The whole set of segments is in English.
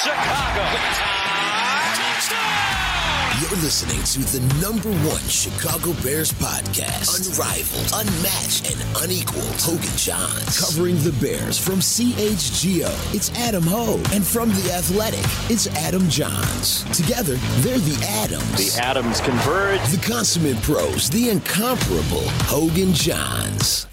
Chicago. Touchdown! You're listening to the #1 Chicago Bears podcast. Unrivaled, unmatched, and unequaled. Hogan Johns. Covering the Bears from CHGO, it's Adam Hogue. And from The Athletic, it's Adam Johns. Together, they're the Adams. The Adams converge. The consummate pros, the incomparable Hogan Johns.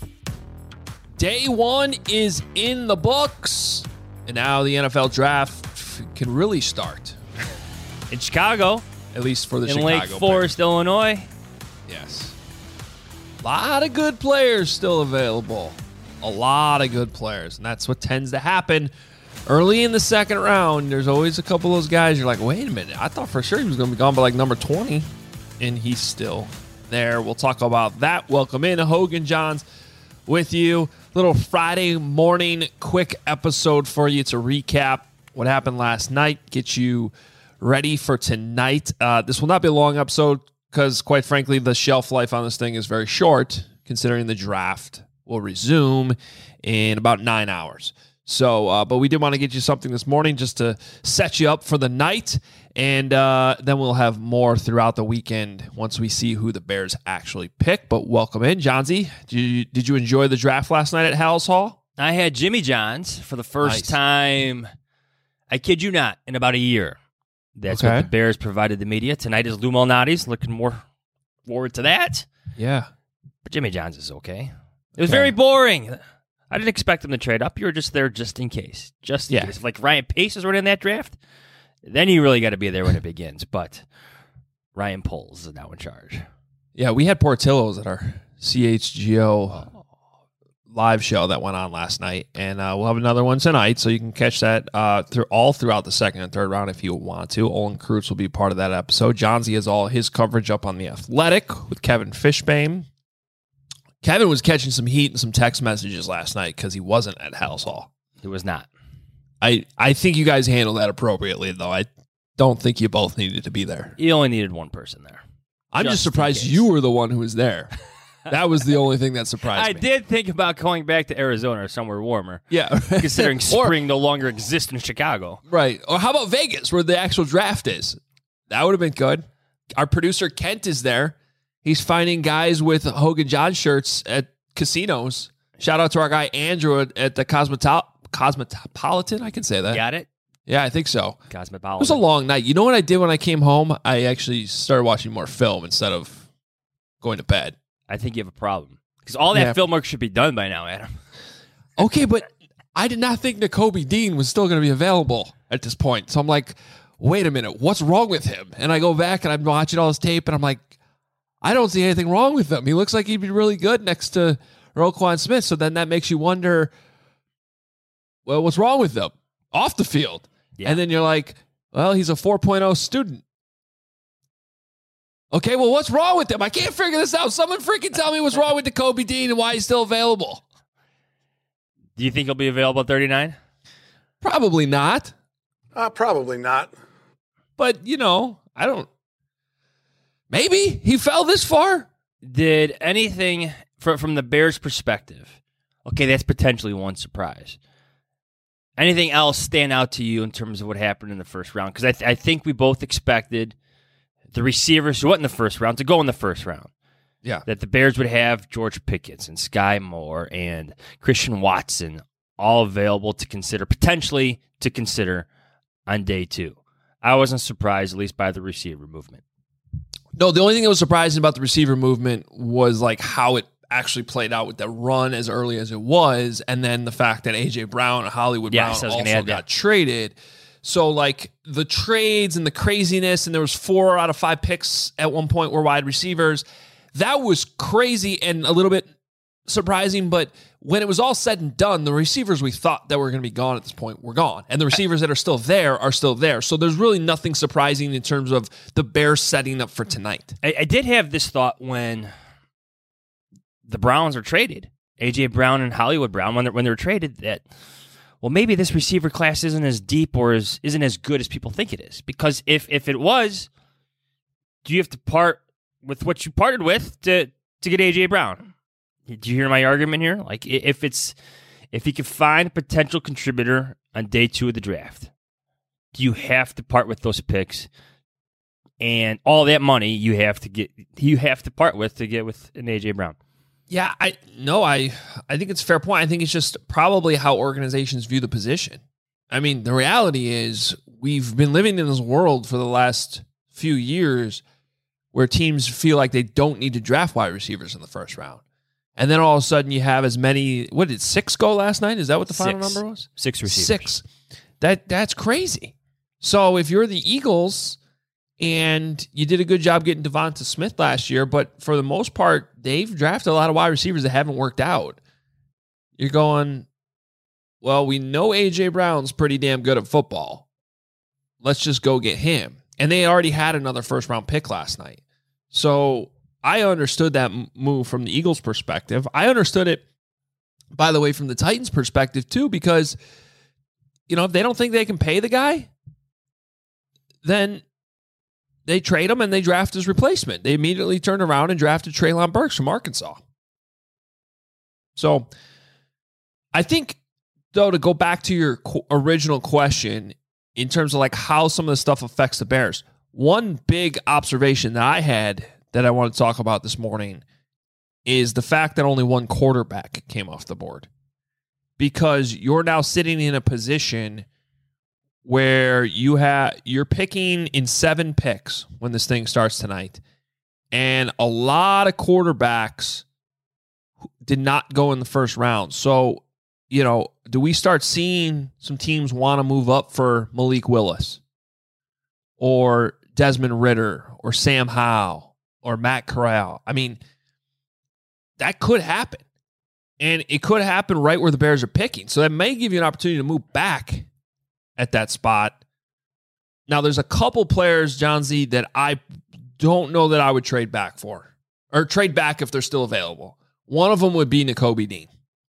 Day one is in the books, and now the NFL draft can really start. In Chicago. At least for the in Chicago Lake Forest, Bears. Illinois. Yes. A lot of good players still available. A lot of good players, and that's what tends to happen early in the second round. There's always a couple of those guys you're like, wait a minute, I thought for sure he was going to be gone by like number 20, and he's still there. We'll talk about that. Welcome in, Hogan Johns with you. Little Friday morning quick episode for you to recap what happened last night, get you ready for tonight. This will not be a long episode because, quite frankly, the shelf life on this thing is very short, considering the draft will resume in about 9 hours. So, but we did want to get you something this morning just to set you up for the night, and then we'll have more throughout the weekend once we see who the Bears actually pick. But welcome in, Johnsy. Did you enjoy the draft last night at Hal's Hall? I had Jimmy John's for the first time, I kid you not, in about a year. That's what the Bears provided the media. Tonight is Lou Malnati's. Looking more forward to that. Yeah. But Jimmy John's is okay. It was very boring. I didn't expect him to trade up. You were just there just in case. Just in case. If like Ryan Pace is running that draft, then you really got to be there when it begins. But Ryan Poles is now in charge. Yeah, we had Portillo's at our CHGO live show that went on last night, and we'll have another one tonight, so you can catch that throughout the second and third round if you want to. Olin Kreutz will be part of that episode. Johnsy has all his coverage up on The Athletic with Kevin Fishbane. Kevin was catching some heat and some text messages last night because he wasn't at Hal's Hall. It was not. I think you guys handled that appropriately, though. I don't think you both needed to be there. You only needed one person there. I'm just surprised you were the one who was there. That was the only thing that surprised me. I did think about going back to Arizona or somewhere warmer. Yeah. Considering spring no longer exists in Chicago. Right. Or how about Vegas, where the actual draft is? That would have been good. Our producer, Kent, is there. He's finding guys with Hogan John shirts at casinos. Shout out to our guy, Andrew, at the Cosmopolitan. I can say that. Got it? Yeah, I think so. Cosmopolitan. It was a long night. You know what I did when I came home? I actually started watching more film instead of going to bed. I think you have a problem. Because all that film work should be done by now, Adam. Okay, but I did not think Nakobe Dean was still going to be available at this point. So I'm like, wait a minute, what's wrong with him? And I go back and I'm watching all this tape and I'm like, I don't see anything wrong with him. He looks like he'd be really good next to Roquan Smith. So then that makes you wonder, well, what's wrong with him off the field? Yeah. And then you're like, well, he's a 4.0 student. Okay, well, what's wrong with him? I can't figure this out. Someone freaking tell me what's wrong with Nakobe Dean and why he's still available. Do you think he'll be available at 39? Probably not. Probably not. But, I don't. Maybe he fell this far. Did anything from the Bears' perspective, okay, that's potentially one surprise. Anything else stand out to you in terms of what happened in the first round? Because I think we both expected the receivers who went in the first round to go in the first round. Yeah. That the Bears would have George Pickens and Sky Moore and Christian Watson all available to consider, potentially to consider on day two. I wasn't surprised, at least by the receiver movement. No, the only thing that was surprising about the receiver movement was like how it actually played out with the run as early as it was, and then the fact that A.J. Brown and Hollywood Brown also got traded. So, like, the trades and the craziness, and there was 4 out of 5 picks at one point were wide receivers. That was crazy and a little bit surprising, but when it was all said and done, the receivers we thought that were going to be gone at this point were gone, and the receivers that are still there are still there. So there's really nothing surprising in terms of the Bears setting up for tonight. I did have this thought when the Browns were traded, A.J. Brown and Hollywood Brown, when they were traded, that, well, maybe this receiver class isn't as deep or isn't as good as people think it is. Because if it was, do you have to part with what you parted with to get A.J. Brown? Did you hear my argument here? Like, if you could find a potential contributor on day 2 of the draft, you have to part with those picks, and all that money you have to part with to get with an A.J. Brown. Yeah, I think it's a fair point. I think it's just probably how organizations view the position. I mean, the reality is we've been living in this world for the last few years where teams feel like they don't need to draft wide receivers in the first round. And then all of a sudden you have as many, what did 6 go last night? Is that what the final number was? 6 receivers. 6. That's crazy. So if you're the Eagles and you did a good job getting Devonta Smith last year, but for the most part, they've drafted a lot of wide receivers that haven't worked out. You're going, well, we know A.J. Brown's pretty damn good at football. Let's just go get him. And they already had another first-round pick last night. So I understood that move from the Eagles' perspective. I understood it, by the way, from the Titans' perspective, too, because, if they don't think they can pay the guy, then they trade him and they draft his replacement. They immediately turned around and drafted Treylon Burks from Arkansas. So I think, though, to go back to your original question in terms of like how some of the stuff affects the Bears, one big observation that I had that I want to talk about this morning is the fact that only one quarterback came off the board. Because you're now sitting in a position where you're picking in 7 picks when this thing starts tonight. And a lot of quarterbacks did not go in the first round. So, do we start seeing some teams want to move up for Malik Willis or Desmond Ridder or Sam Howell or Matt Corral? I mean, that could happen. And it could happen right where the Bears are picking. So that may give you an opportunity to move back at that spot. Now, there's a couple players, John Z, that I don't know that I would trade back for. Or trade back if they're still available. One of them would be Nakobe Dean.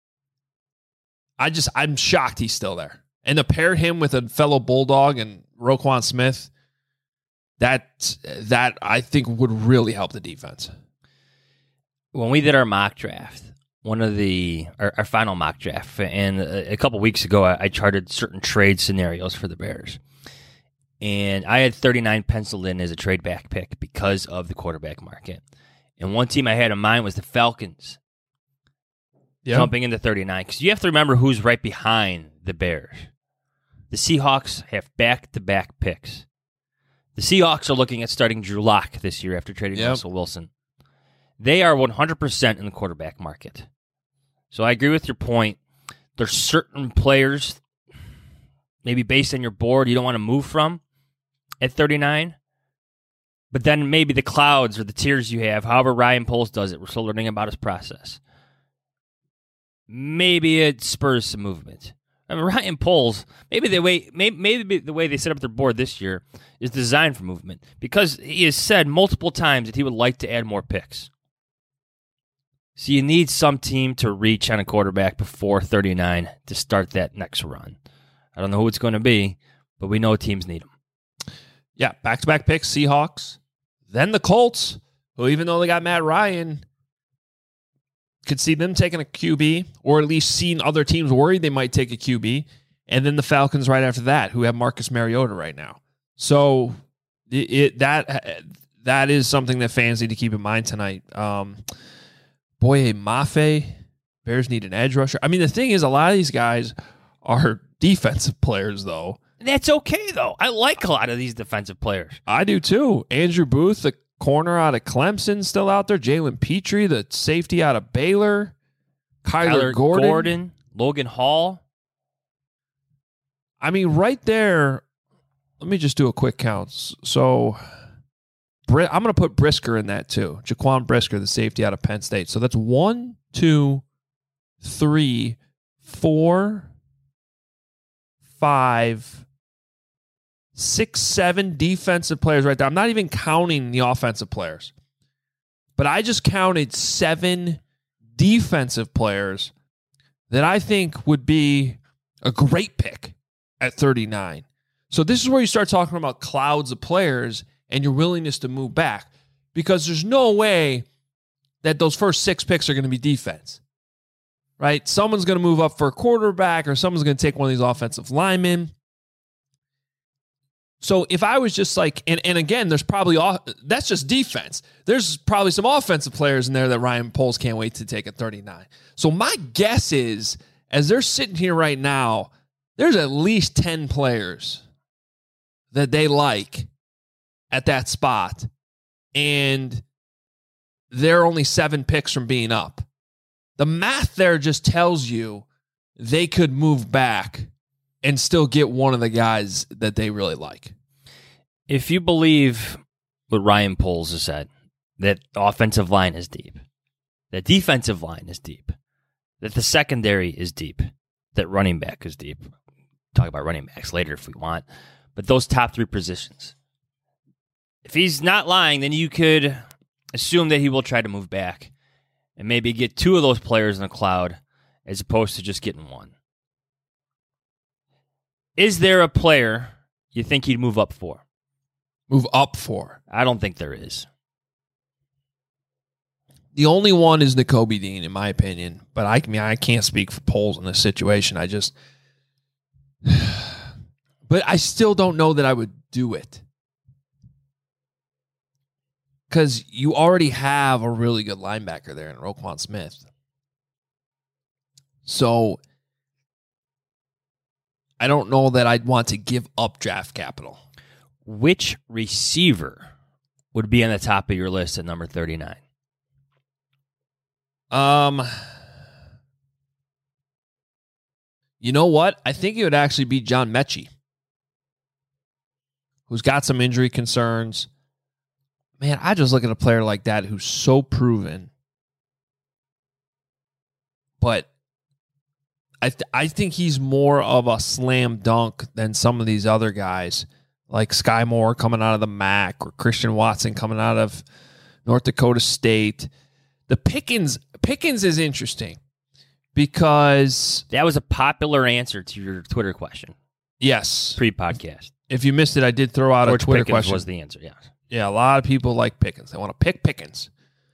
I'm shocked he's still there. And to pair him with a fellow Bulldog and Roquan Smith, that I think would really help the defense. When we did our mock draft, our final mock draft, and a couple weeks ago, I charted certain trade scenarios for the Bears. And I had 39 penciled in as a trade back pick because of the quarterback market. And one team I had in mind was the Falcons. Jumping into 39, because you have to remember who's right behind the Bears. The Seahawks have back-to-back picks. The Seahawks are looking at starting Drew Lock this year after trading Russell Wilson. They are 100% in the quarterback market. So I agree with your point. There's certain players, maybe based on your board, you don't want to move from at 39. But then maybe the clouds or the tiers you have, however Ryan Poles does it, we're still learning about his process. Maybe it spurs some movement. I mean, Ryan Poles, maybe the way they set up their board this year is designed for movement, because he has said multiple times that he would like to add more picks. So you need some team to reach on a quarterback before 39 to start that next run. I don't know who it's going to be, but we know teams need them. Yeah, back-to-back picks, Seahawks. Then the Colts, who even though they got Matt Ryan, could see them taking a QB, or at least seeing other teams worried they might take a QB. And then the Falcons right after that, who have Marcus Mariota right now. So that is something that fans need to keep in mind tonight. Boye Mafe, Bears need an edge rusher. I mean, the thing is, a lot of these guys are defensive players, though. That's okay, though. I like a lot of these defensive players. I do, too. Andrew Booth, the corner out of Clemson, still out there. Jalen Petrie, the safety out of Baylor. Kyler Gordon. Logan Hall. I mean, right there, let me just do a quick count. So I'm going to put Brisker in that, too. Jaquan Brisker, the safety out of Penn State. So that's 1, 2, 3, 4, 5, 6, 7 defensive players right there. I'm not even counting the offensive players. But I just counted 7 defensive players that I think would be a great pick at 39. So this is where you start talking about clouds of players and your willingness to move back, because there's no way that those first 6 picks are going to be defense, right? Someone's going to move up for a quarterback, or someone's going to take one of these offensive linemen. So if I was just like, and again, there's probably that's just defense. There's probably some offensive players in there that Ryan Poles can't wait to take at 39. So my guess is, as they're sitting here right now, there's at least 10 players that they like at that spot, and they're only 7 picks from being up. The math there just tells you they could move back and still get one of the guys that they really like. If you believe what Ryan Poles has said, that the offensive line is deep, that defensive line is deep, that the secondary is deep, that running back is deep. Talk about running backs later if we want. But those top 3 positions. If he's not lying, then you could assume that he will try to move back and maybe get 2 of those players in the cloud as opposed to just getting 1. Is there a player you think he'd move up for? Move up for? I don't think there is. The only one is Nakobe Dean, in my opinion. But I can't speak for Poles in this situation. But I still don't know that I would do it. Because you already have a really good linebacker there in Roquan Smith. So I don't know that I'd want to give up draft capital. Which receiver would be on the top of your list at number 39? You know what? I think it would actually be John Mechie, who's got some injury concerns. Man, I just look at a player like that who's so proven. But I think he's more of a slam dunk than some of these other guys, like Sky Moore coming out of the MAC or Christian Watson coming out of North Dakota State. The Pickens is interesting because that was a popular answer to your Twitter question. Yes. Pre-podcast. If you missed it, I did throw out George a Twitter Pickens question. Was the answer, yeah. Yeah, a lot of people like Pickens. They want to pick Pickens.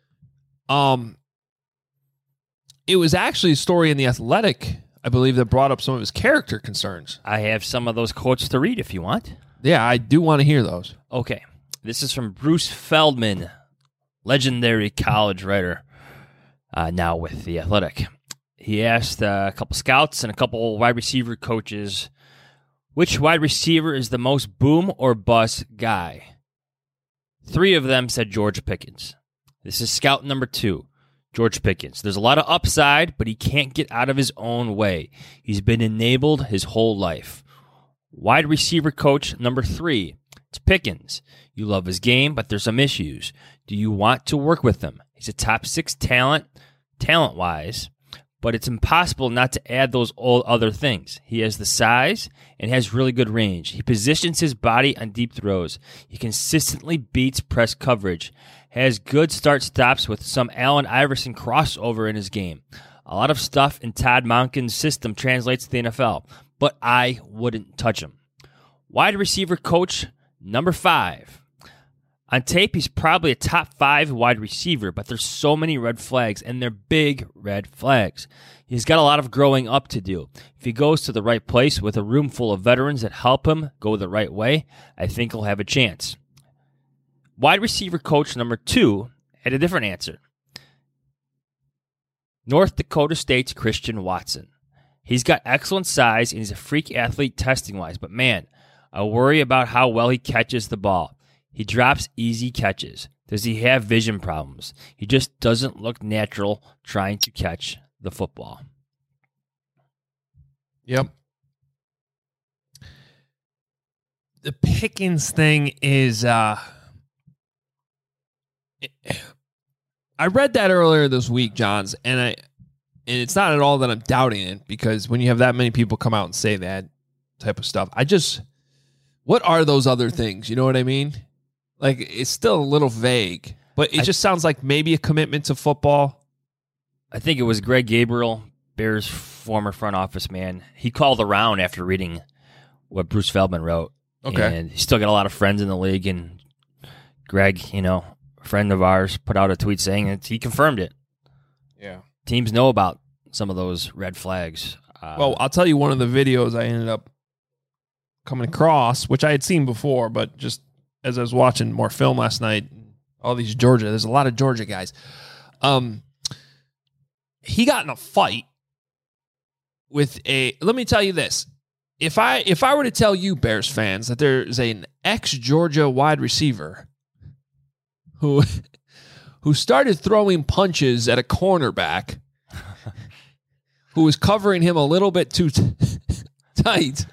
It was actually a story in The Athletic, I believe, that brought up some of his character concerns. I have some of those quotes to read if you want. Yeah, I do want to hear those. Okay. This is from Bruce Feldman, legendary college writer, now with The Athletic. He asked a couple scouts and a couple wide receiver coaches, which wide receiver is the most boom or bust guy? 3 of them said George Pickens. This is scout number 2, George Pickens. There's a lot of upside, but he can't get out of his own way. He's been enabled his whole life. Wide receiver coach number 3, it's Pickens. You love his game, but there's some issues. Do you want to work with him? He's a top 6 talent-wise, but it's impossible not to add those old other things. He has the size and has really good range. He positions his body on deep throws. He consistently beats press coverage. Has good start-stops with some Allen Iverson crossover in his game. A lot of stuff in Todd Monken's system translates to the NFL, but I wouldn't touch him. Wide receiver coach number 5. On tape, he's probably a top 5 wide receiver, but there's so many red flags, and they're big red flags. He's got a lot of growing up to do. If he goes to the right place with a room full of veterans that help him go the right way, I think he'll have a chance. Wide receiver coach number 2 had a different answer. North Dakota State's Christian Watson. He's got excellent size, and he's a freak athlete testing-wise, but man, I worry about how well he catches the ball. He drops easy catches. Does he have vision problems? He just doesn't look natural trying to catch the football. Yep. The Pickens thing is, I read that earlier this week, Johns, and it's not at all that I'm doubting it, because when you have that many people come out and say that type of stuff, what are those other things? You know what I mean? Like, it's still a little vague, but it just sounds like maybe a commitment to football. I think it was Greg Gabriel, Bears' former front office man. He called around after reading what Bruce Feldman wrote. Okay. And he's still got a lot of friends in the league, and Greg, a friend of ours, put out a tweet saying that he confirmed it. Yeah. Teams know about some of those red flags. Well, I'll tell you one of the videos I ended up coming across, which I had seen before, but just as I was watching more film last night, all these Georgia, there's a lot of Georgia guys. He got in a fight with let me tell you this. If I were to tell you, Bears fans, that there's an ex-Georgia wide receiver who started throwing punches at a cornerback who was covering him a little bit too tight.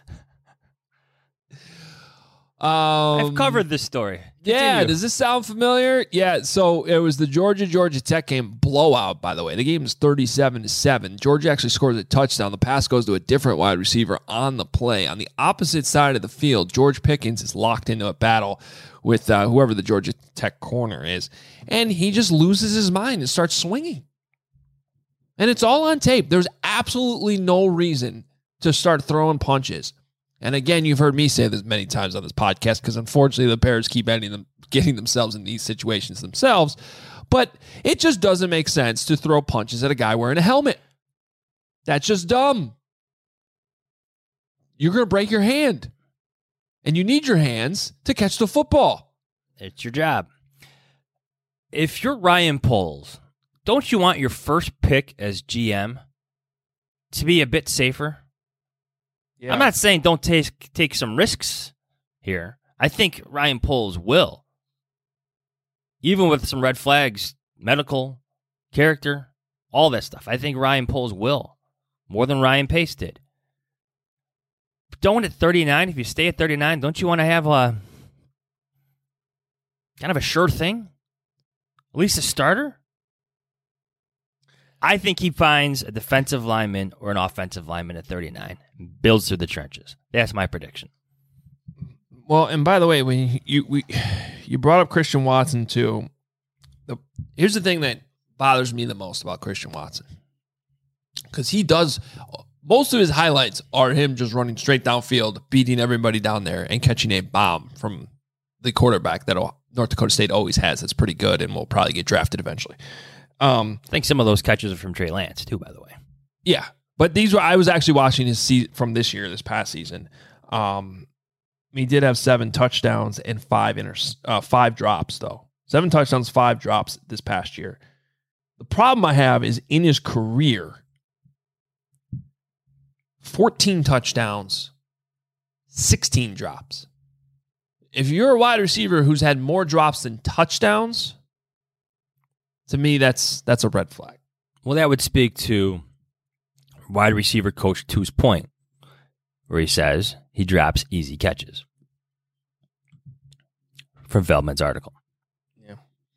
I've covered this story. Yeah, does this sound familiar? Yeah, so it was the Georgia Tech game blowout, by the way. The game is 37-7. Georgia actually scores a touchdown. The pass goes to a different wide receiver on the play. On the opposite side of the field, George Pickens is locked into a battle with whoever the Georgia Tech corner is. And he just loses his mind and starts swinging. And it's all on tape. There's absolutely no reason to start throwing punches. And again, you've heard me say this many times on this podcast because unfortunately the Bears keep getting themselves in these situations themselves. But it just doesn't make sense to throw punches at a guy wearing a helmet. That's just dumb. You're going to break your hand. And you need your hands to catch the football. It's your job. If you're Ryan Poles, don't you want your first pick as GM to be a bit safer? Yeah. I'm not saying don't take some risks here. I think Ryan Poles will. Even with some red flags, medical, character, all that stuff. I think Ryan Poles will. More than Ryan Pace did. But don't at 39, if you stay at 39, don't you want to have a kind of a sure thing? At least a starter? I think he finds a defensive lineman or an offensive lineman at 39 and builds through the trenches. That's my prediction. Well, and by the way, when you brought up Christian Watson too. Here's the thing that bothers me the most about Christian Watson. Because he does, most of his highlights are him just running straight downfield, beating everybody down there, and catching a bomb from the quarterback that North Dakota State always has. That's pretty good and will probably get drafted eventually. I think some of those catches are from Trey Lance, too, by the way. Yeah, but I was actually watching his from this past season. He did have 7 touchdowns and 5 drops, though. 7 touchdowns, 5 drops this past year. The problem I have is in his career, 14 touchdowns, 16 drops. If you're a wide receiver who's had more drops than touchdowns, to me, that's a red flag. Well, that would speak to wide receiver coach 2's point, where he says he drops easy catches. From Feldman's article. Yeah.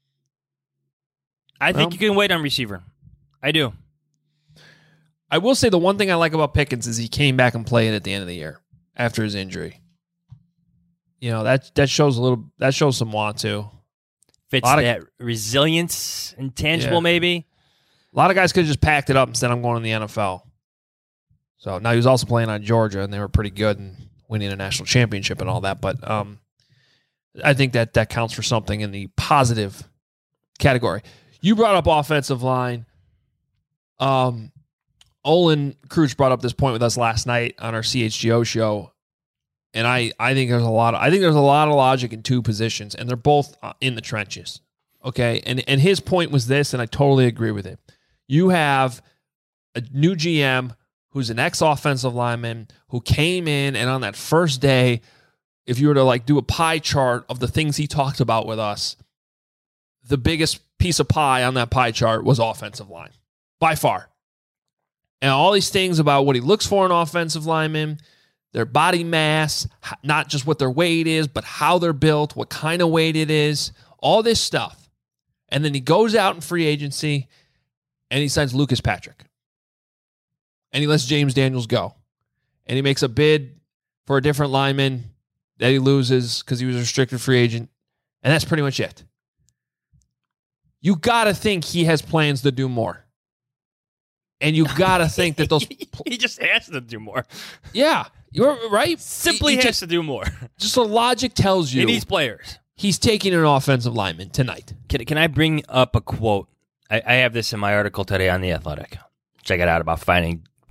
I think you can wait on receiver. I do. I will say the one thing I like about Pickens is he came back and played at the end of the year after his injury. You know, that shows some want to. Fits that resilience, intangible maybe. A lot of guys could have just packed it up and said, I'm going to the NFL. So now he was also playing on Georgia, and they were pretty good and winning a national championship and all that. But I think that counts for something in the positive category. You brought up offensive line. Olin Kruch brought up this point with us last night on our CHGO show. And I think there's a lot of logic in 2 positions, and they're both in the trenches. Okay, and his point was this, and I totally agree with it. You have a new GM who's an ex-offensive lineman who came in, and on that first day, if you were to do a pie chart of the things he talked about with us, the biggest piece of pie on that pie chart was offensive line, by far. And all these things about what he looks for in offensive linemen, their body mass, not just what their weight is, but how they're built, what kind of weight it is, all this stuff. And then he goes out in free agency and he signs Lucas Patrick. And he lets James Daniels go. And he makes a bid for a different lineman that he loses because he was a restricted free agent. And that's pretty much it. You got to think he has plans to do more. And you got to think that those... He just has to do more. Yeah. You're right. Simply has to do more. Just the logic tells you. He needs players. He's taking an offensive lineman tonight. Can I bring up a quote? I have this in my article today on The Athletic. Check it out about finding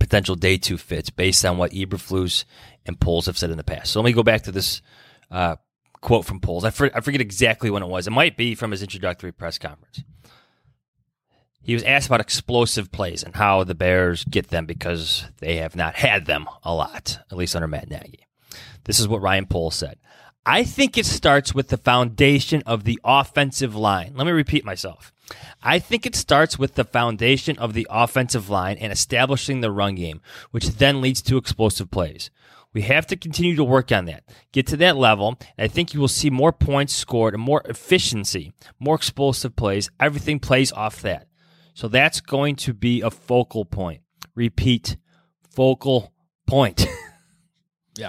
potential day 2 fits based on what Eberflus and Poles have said in the past. So let me go back to this quote from Poles. I forget exactly when it was. It might be from his introductory press conference. He was asked about explosive plays and how the Bears get them because they have not had them a lot, at least under Matt Nagy. This is what Ryan Poles said. I think it starts with the foundation of the offensive line. Let me repeat myself. I think it starts with the foundation of the offensive line and establishing the run game, which then leads to explosive plays. We have to continue to work on that, get to that level, and I think you will see more points scored and more efficiency, more explosive plays. Everything plays off that. So that's going to be a focal point. Repeat, focal point. Yeah.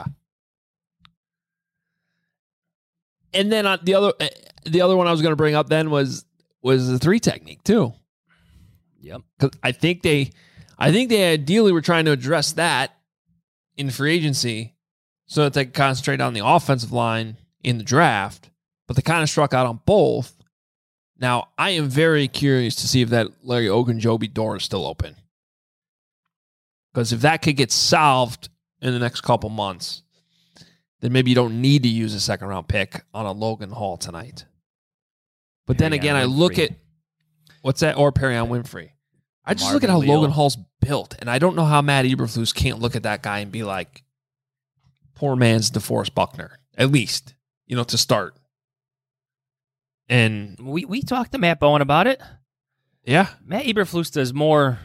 And then the other one I was going to bring up then was the 3 technique too. Yep. Because I think they ideally were trying to address that in free agency so that they could concentrate on the offensive line in the draft, but they kind of struck out on both. Now, I am very curious to see if that Larry Ogunjobi door is still open. Because if that could get solved in the next couple months, then maybe you don't need to use a second-round pick on a Logan Hall tonight. But then again, I look at what's that? Or Perion Winfrey. I just look at how Logan Hall's built, and I don't know how Matt Eberflus can't look at that guy and be like, poor man's DeForest Buckner, at least, to start. And we talked to Matt Bowen about it. Yeah. Matt Eberflus does more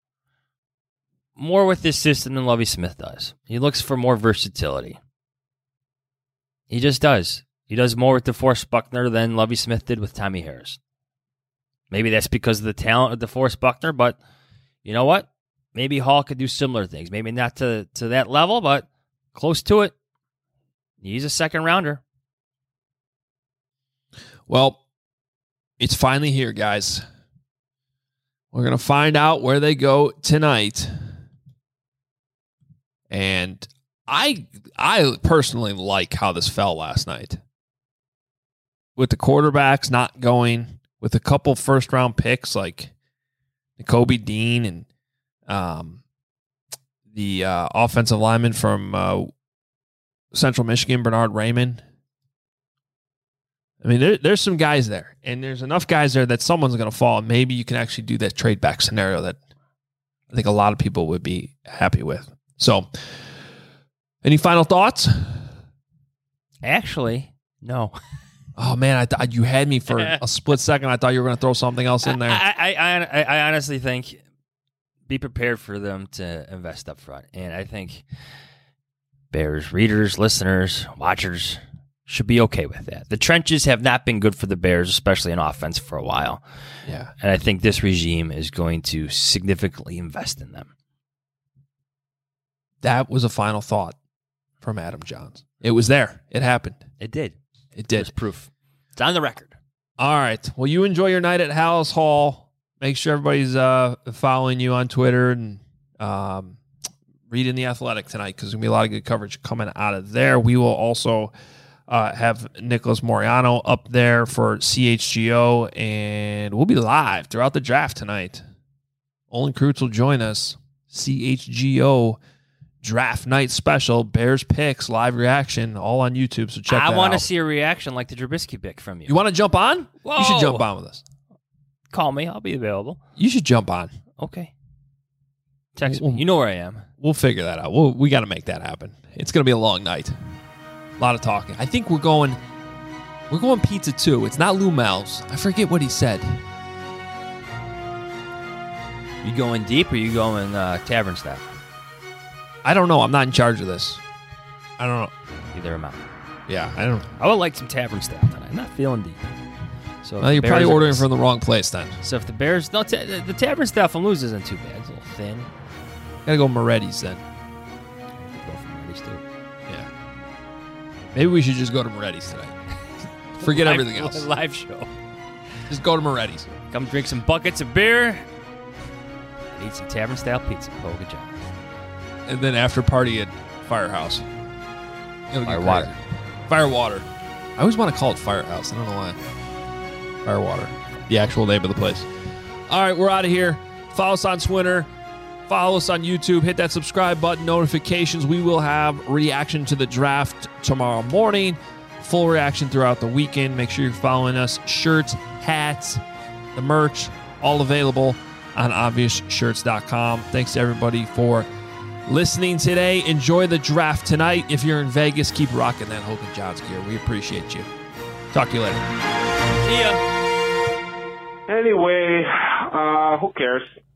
with this system than Lovie Smith does. He looks for more versatility. He just does. He does more with DeForest Buckner than Lovie Smith did with Tommy Harris. Maybe that's because of the talent of DeForest Buckner, but you know what? Maybe Hall could do similar things. Maybe not to that level, but close to it. He's a second rounder. Well, it's finally here, guys. We're going to find out where they go tonight. And I personally like how this fell last night. With the quarterbacks not going, with a couple first-round picks like Nakobe Dean and the offensive lineman from Central Michigan, Bernard Raymond. I mean, there's some guys there, and there's enough guys there that someone's going to fall, and maybe you can actually do that trade back scenario that I think a lot of people would be happy with. So, any final thoughts? Actually, no. Oh, man, I thought you had me for a split second. I thought you were going to throw something else in there. I honestly think be prepared for them to invest up front, and I think Bears readers, listeners, watchers should be okay with that. The trenches have not been good for the Bears, especially in offense, for a while. Yeah. And I think this regime is going to significantly invest in them. That was a final thought from Adam Johns. It was there. It happened. It did. It did. There's proof. It's on the record. All right. Well, you enjoy your night at Hallis Hall. Make sure everybody's following you on Twitter and reading The Athletic tonight because there's going to be a lot of good coverage coming out of there. We will also have Nicholas Moriano up there for CHGO, and we'll be live throughout the draft tonight. Olin Kreutz will join us. CHGO Draft Night Special, Bears Picks, live reaction, all on YouTube, so check that out. I want to see a reaction like the Trubisky pick from you. You want to jump on? Whoa. You should jump on with us. Call me. I'll be available. You should jump on. Okay. Text me. You know where I am. We'll figure that out. We got to make that happen. It's going to be a long night. A lot of talking. I think we're going pizza too. It's not Lou Mel's. I forget what he said. You going deep or you going tavern style? I don't know. I'm not in charge of this. I don't know. Either am I. Yeah, I don't. I would like some tavern style tonight. I'm not feeling deep. So well, you're probably ordering from the wrong place then. So if the Bears, the tavern style from Lou's isn't too bad. It's a little thin. Gotta go Moretti's then. Go for Moretti's too. Yeah. Maybe we should just go to Moretti's tonight. Forget everything else. Live show. Just go to Moretti's. Come drink some buckets of beer. And eat some tavern style pizza. Hogan John. And then after party at Firehouse. Firewater. Firewater. I always want to call it Firehouse. I don't know why. Firewater. The actual name of the place. All right, we're out of here. Follow us on Twitter Follow us on YouTube. Hit that subscribe button, notifications. We will have reaction to the draft tomorrow morning. Full reaction throughout the weekend. Make sure you're following us. Shirts, hats, the merch, all available on obviousshirts.com. Thanks to everybody for listening today. Enjoy the draft tonight. If you're in Vegas, keep rocking that Hogan Johns gear. We appreciate you. Talk to you later. See ya. Anyway, who cares?